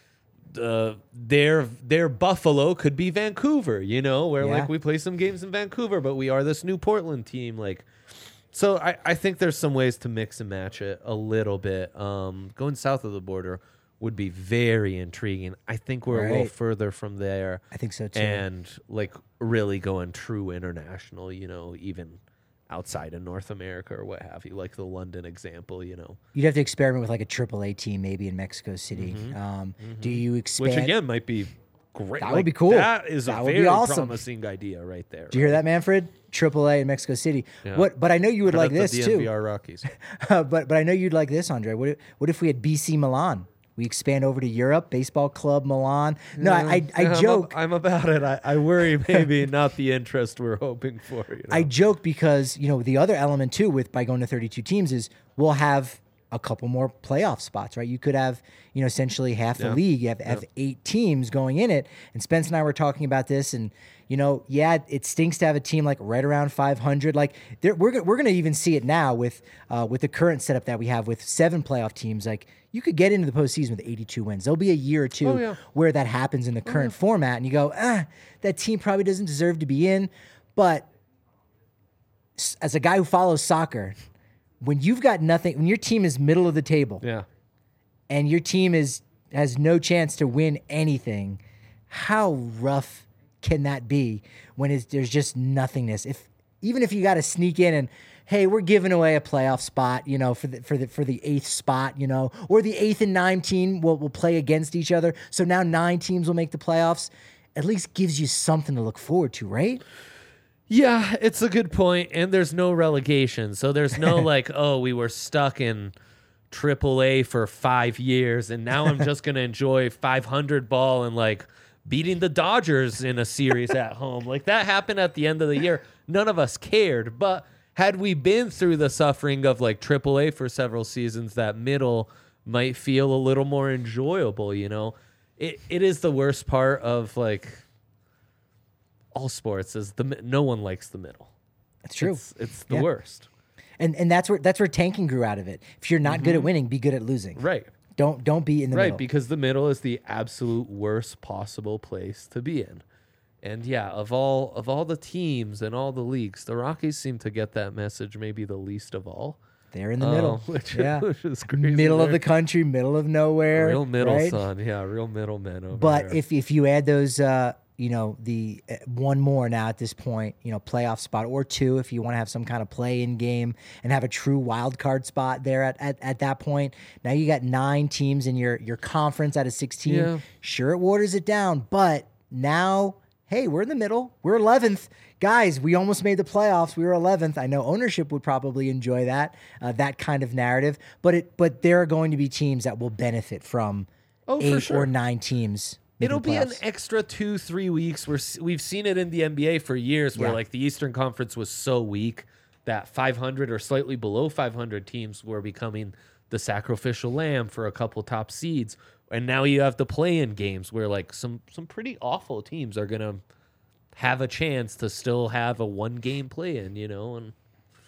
uh, their their Buffalo could be Vancouver, you know, where Yeah. like we play some games in Vancouver, but we are this new Portland team. Like, so I, I think there's some ways to mix and match it a little bit. Um, going south of the border would be very intriguing. I think we're a little Right. further from there. I think so too. And like really going true international, you know, even outside of North America or what have you, like the London example, you know, You'd have to experiment with like a triple A team maybe in Mexico City. Um, Do you expand? which again might be great. That Like, would be cool. That is That a would be very awesome. promising idea right there. Do you hear that, Manfred? triple A in Mexico City. Yeah. What? But I know you would like this the too. D M V R Rockies. but but I know you'd like this, Andre. What if, what if we had B C Milan? We expand over to Europe, baseball club Milan. No, I I, I Yeah, I'm joke. ab- I'm, about it. I, I worry maybe not the interest we're hoping for. You know? I joke because you know the other element too with by going to thirty-two teams is we'll have a couple more playoff spots, right? You could have you know essentially half the Yeah. league. You have, have eight teams going in it. And Spence and I were talking about this, and you know, yeah, it stinks to have a team like right around five hundred. Like there, we're go- we're gonna even see it now with uh, with the current setup that we have with seven playoff teams. Like you could get into the postseason with eighty-two wins. There'll be a year or two Oh, yeah. where that happens in the current format, and you go, ah, that team probably doesn't deserve to be in. But s- as a guy who follows soccer, when you've got nothing, when your team is middle of the table yeah. and your team is has no chance to win anything, how rough can that be when it's, there's just nothingness? If even if you got to sneak in and hey, we're giving away a playoff spot, you know, for the for the for the eighth spot, you know, or the eighth and nine team will will play against each other, so now nine teams will make the playoffs. At least gives you something to look forward to, right? Yeah, it's a good point, and there's no relegation, so there's no like, oh, we were stuck in triple A for five years, and now I'm just gonna enjoy five hundred ball and like beating the Dodgers in a series at home. Like that happened at the end of the year. None of us cared, but had we been through the suffering of like triple A for several seasons, that middle might feel a little more enjoyable. You know, it it is the worst part of like all sports is the mi- no one likes the middle. That's true. It's, it's the Yeah. worst. And and that's where that's where tanking grew out of it. If you're not good at winning, be good at losing. Right. Don't don't be in the Right, middle. because the middle is the absolute worst possible place to be in. And yeah, of all of all the teams and all the leagues, the Rockies seem to get that message maybe the least of all. They're in the middle. Um, which, yeah. which is crazy. Middle of They're the country, middle of nowhere. real middle right? son. Yeah, real middlemen over But there. if if you add those uh you know, the uh, one more now at this point, you know, playoff spot or two if you want to have some kind of play-in game and have a true wild card spot there at, at, at that point. Now you got nine teams in your, your conference out of sixteen. Yeah. Sure, it waters it down, but now, hey, we're in the middle. We're eleventh. Guys, we almost made the playoffs. We were eleventh. I know ownership would probably enjoy that, uh, that kind of narrative, but it, but there are going to be teams that will benefit from Oh, for eight sure. or nine teams. making It'll the be an playoffs. extra two, three weeks. We're, s- we've seen it in the N B A for years where Yeah. like the Eastern Conference was so weak that five hundred or slightly below five hundred teams were becoming the sacrificial lamb for a couple top seeds. And now you have the play-in games where like some, some pretty awful teams are going to have a chance to still have a one-game play-in, you know, and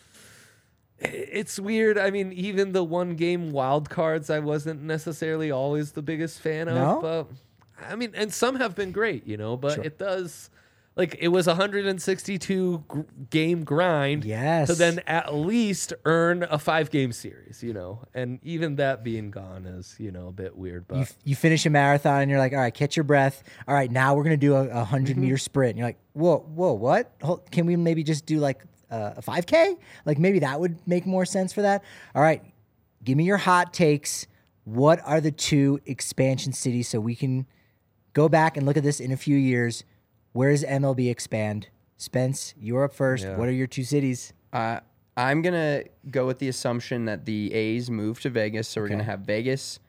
it's weird. I mean, even the one-game wild cards, I wasn't necessarily always the biggest fan of. No? But I mean, and some have been great, you know. But Sure. it does, like, it was a one hundred sixty-two gr- game grind Yes. to then at least earn a five-game series, you know. And even that being gone is, you know, a bit weird. But You, you finish a marathon and you're like, all right, catch your breath. All right, now we're going to do a, a hundred Mm-hmm. meter sprint. And you're like, whoa, whoa, what? Hold, can we maybe just do like uh, a five K? Like maybe that would make more sense for that. All right, give me your hot takes. What are the two expansion cities so we can go back and look at this in a few years? Where does M L B expand? Spence, you're up first. Yeah. What are your two cities? Uh, I'm gonna go with the assumption that the A's move to Vegas, so we're Okay. gonna have Vegas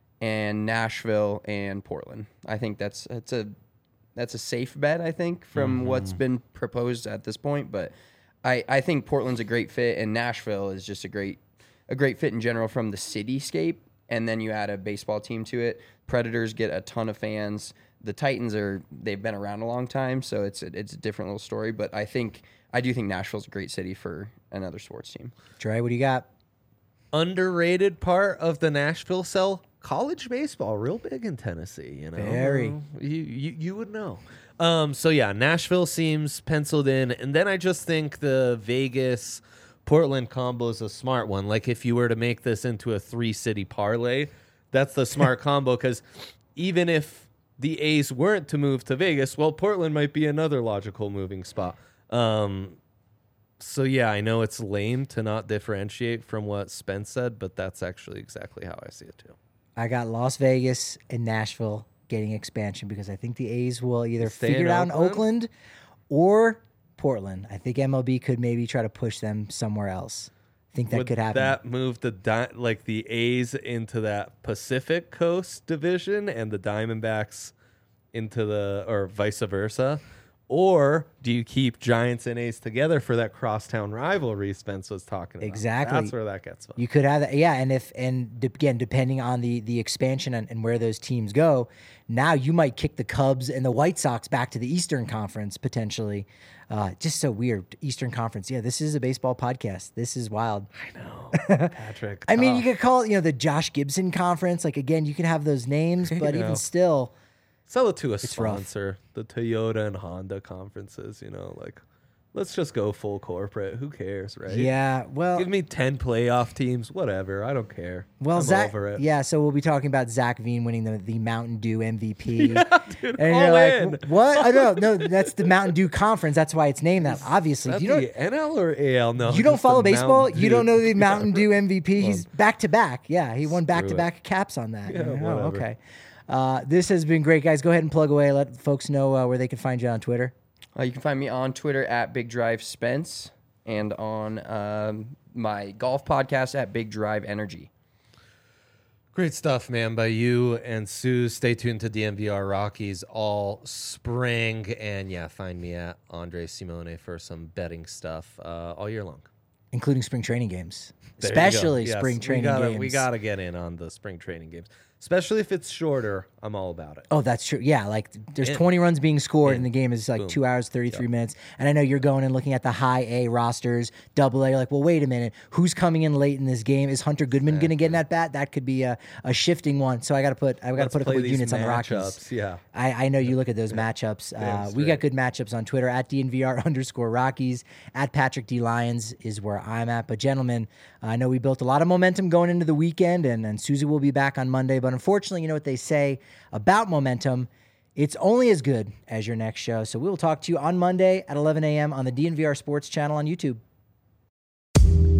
and Nashville and Portland. I think that's that's a that's a safe bet. I think from what's been proposed at this point, but I, I think Portland's a great fit, and Nashville is just a great a great fit in general from the cityscape. And then you add a baseball team to it. Predators get a ton of fans. The Titans are they've been around a long time, so it's a, it's a different little story. But I think I do think Nashville's a great city for another sports team. Dre, what do you got? underrated part of the Nashville sell, college baseball, real big in Tennessee. You know, Very. Uh, you, you you would know. Um, so yeah, Nashville seems penciled in, and then I just think the Vegas Portland combo is a smart one. Like if you were to make this into a three city parlay, that's the smart combo because even if the A's weren't to move to Vegas, well, Portland might be another logical moving spot. Um, so yeah, I know it's lame to not differentiate from what Spence said, but that's actually exactly how I see it too. I got Las Vegas and Nashville getting expansion because I think the A's will either Stay figure in it out in Oakland? Oakland or Portland. I think M L B could maybe try to push them somewhere else. I think that Would could happen. that move the di- like the A's into that Pacific Coast division and the Diamondbacks into the or vice versa? Or do you keep Giants and A's together for that crosstown rivalry Spence was talking about? Exactly. That's where that gets fun. You could have that, yeah. And if and de- again, depending on the the expansion and, and where those teams go, now you might kick the Cubs and the White Sox back to the Eastern Conference potentially. Uh, just so weird, Eastern Conference. Yeah, this is a baseball podcast. This is wild. I know, Patrick. I mean, you tough. could call it, you know, the Josh Gibson Conference. Like again, you can have those names, but know. even still, Sell it to a rough. sponsor, the Toyota and Honda conferences, you know, like let's just go full corporate. Who cares, right? yeah. Well, Give me ten playoff teams, whatever. I don't care. Well, I'm Zach, over it. yeah. So we'll be talking about Zach Veen winning the, the Mountain Dew M V P. Dude, and all you're like, in. what? I don't know. No, that's the Mountain Dew Conference. That's why it's named that. Obviously, Is that you don't. the N L or A L? No, You don't just the follow baseball. Mountain You don't Dew. know the Mountain Dew M V P. He's back to back. Yeah, he won Screw back to back caps on that. Yeah, Oh, whatever. okay. Uh, this has been great, guys. Go ahead and plug away. Let folks know uh, where they can find you on Twitter. Uh, you can find me on Twitter at Big Drive Spence and on um, my golf podcast at Big Drive Energy. Great stuff, man, by you and Sue. Stay tuned to D M V R Rockies all spring. And yeah, find me at Andre Simone for some betting stuff uh, all year long. Including spring training games, There you go. especially Yes, spring training we gotta, games. We got to get in on the spring training games, especially if it's shorter. I'm all about it. Oh, that's true. Yeah, like there's In. twenty runs being scored, In. and the game is like Boom. two hours, thirty-three minutes. And I know you're going and looking at the high A rosters, double A. You're like, well, wait a minute. Who's coming in late in this game? Is Hunter Goodman going to get in at bat? That could be a, a shifting one. So I got to put I got to Let's put a play couple of these units on the Rockies. matchups, yeah. I, I know you look at those matchups. Uh, we got good matchups on Twitter at D N V R underscore Rockies. At Patrick D Lyons is where I'm at. But gentlemen, I know we built a lot of momentum going into the weekend, and, and Susie will be back on Monday. But unfortunately, you know what they say about momentum. It's only as good as your next show. So we will talk to you on Monday at eleven a.m. on the D N V R Sports channel on YouTube.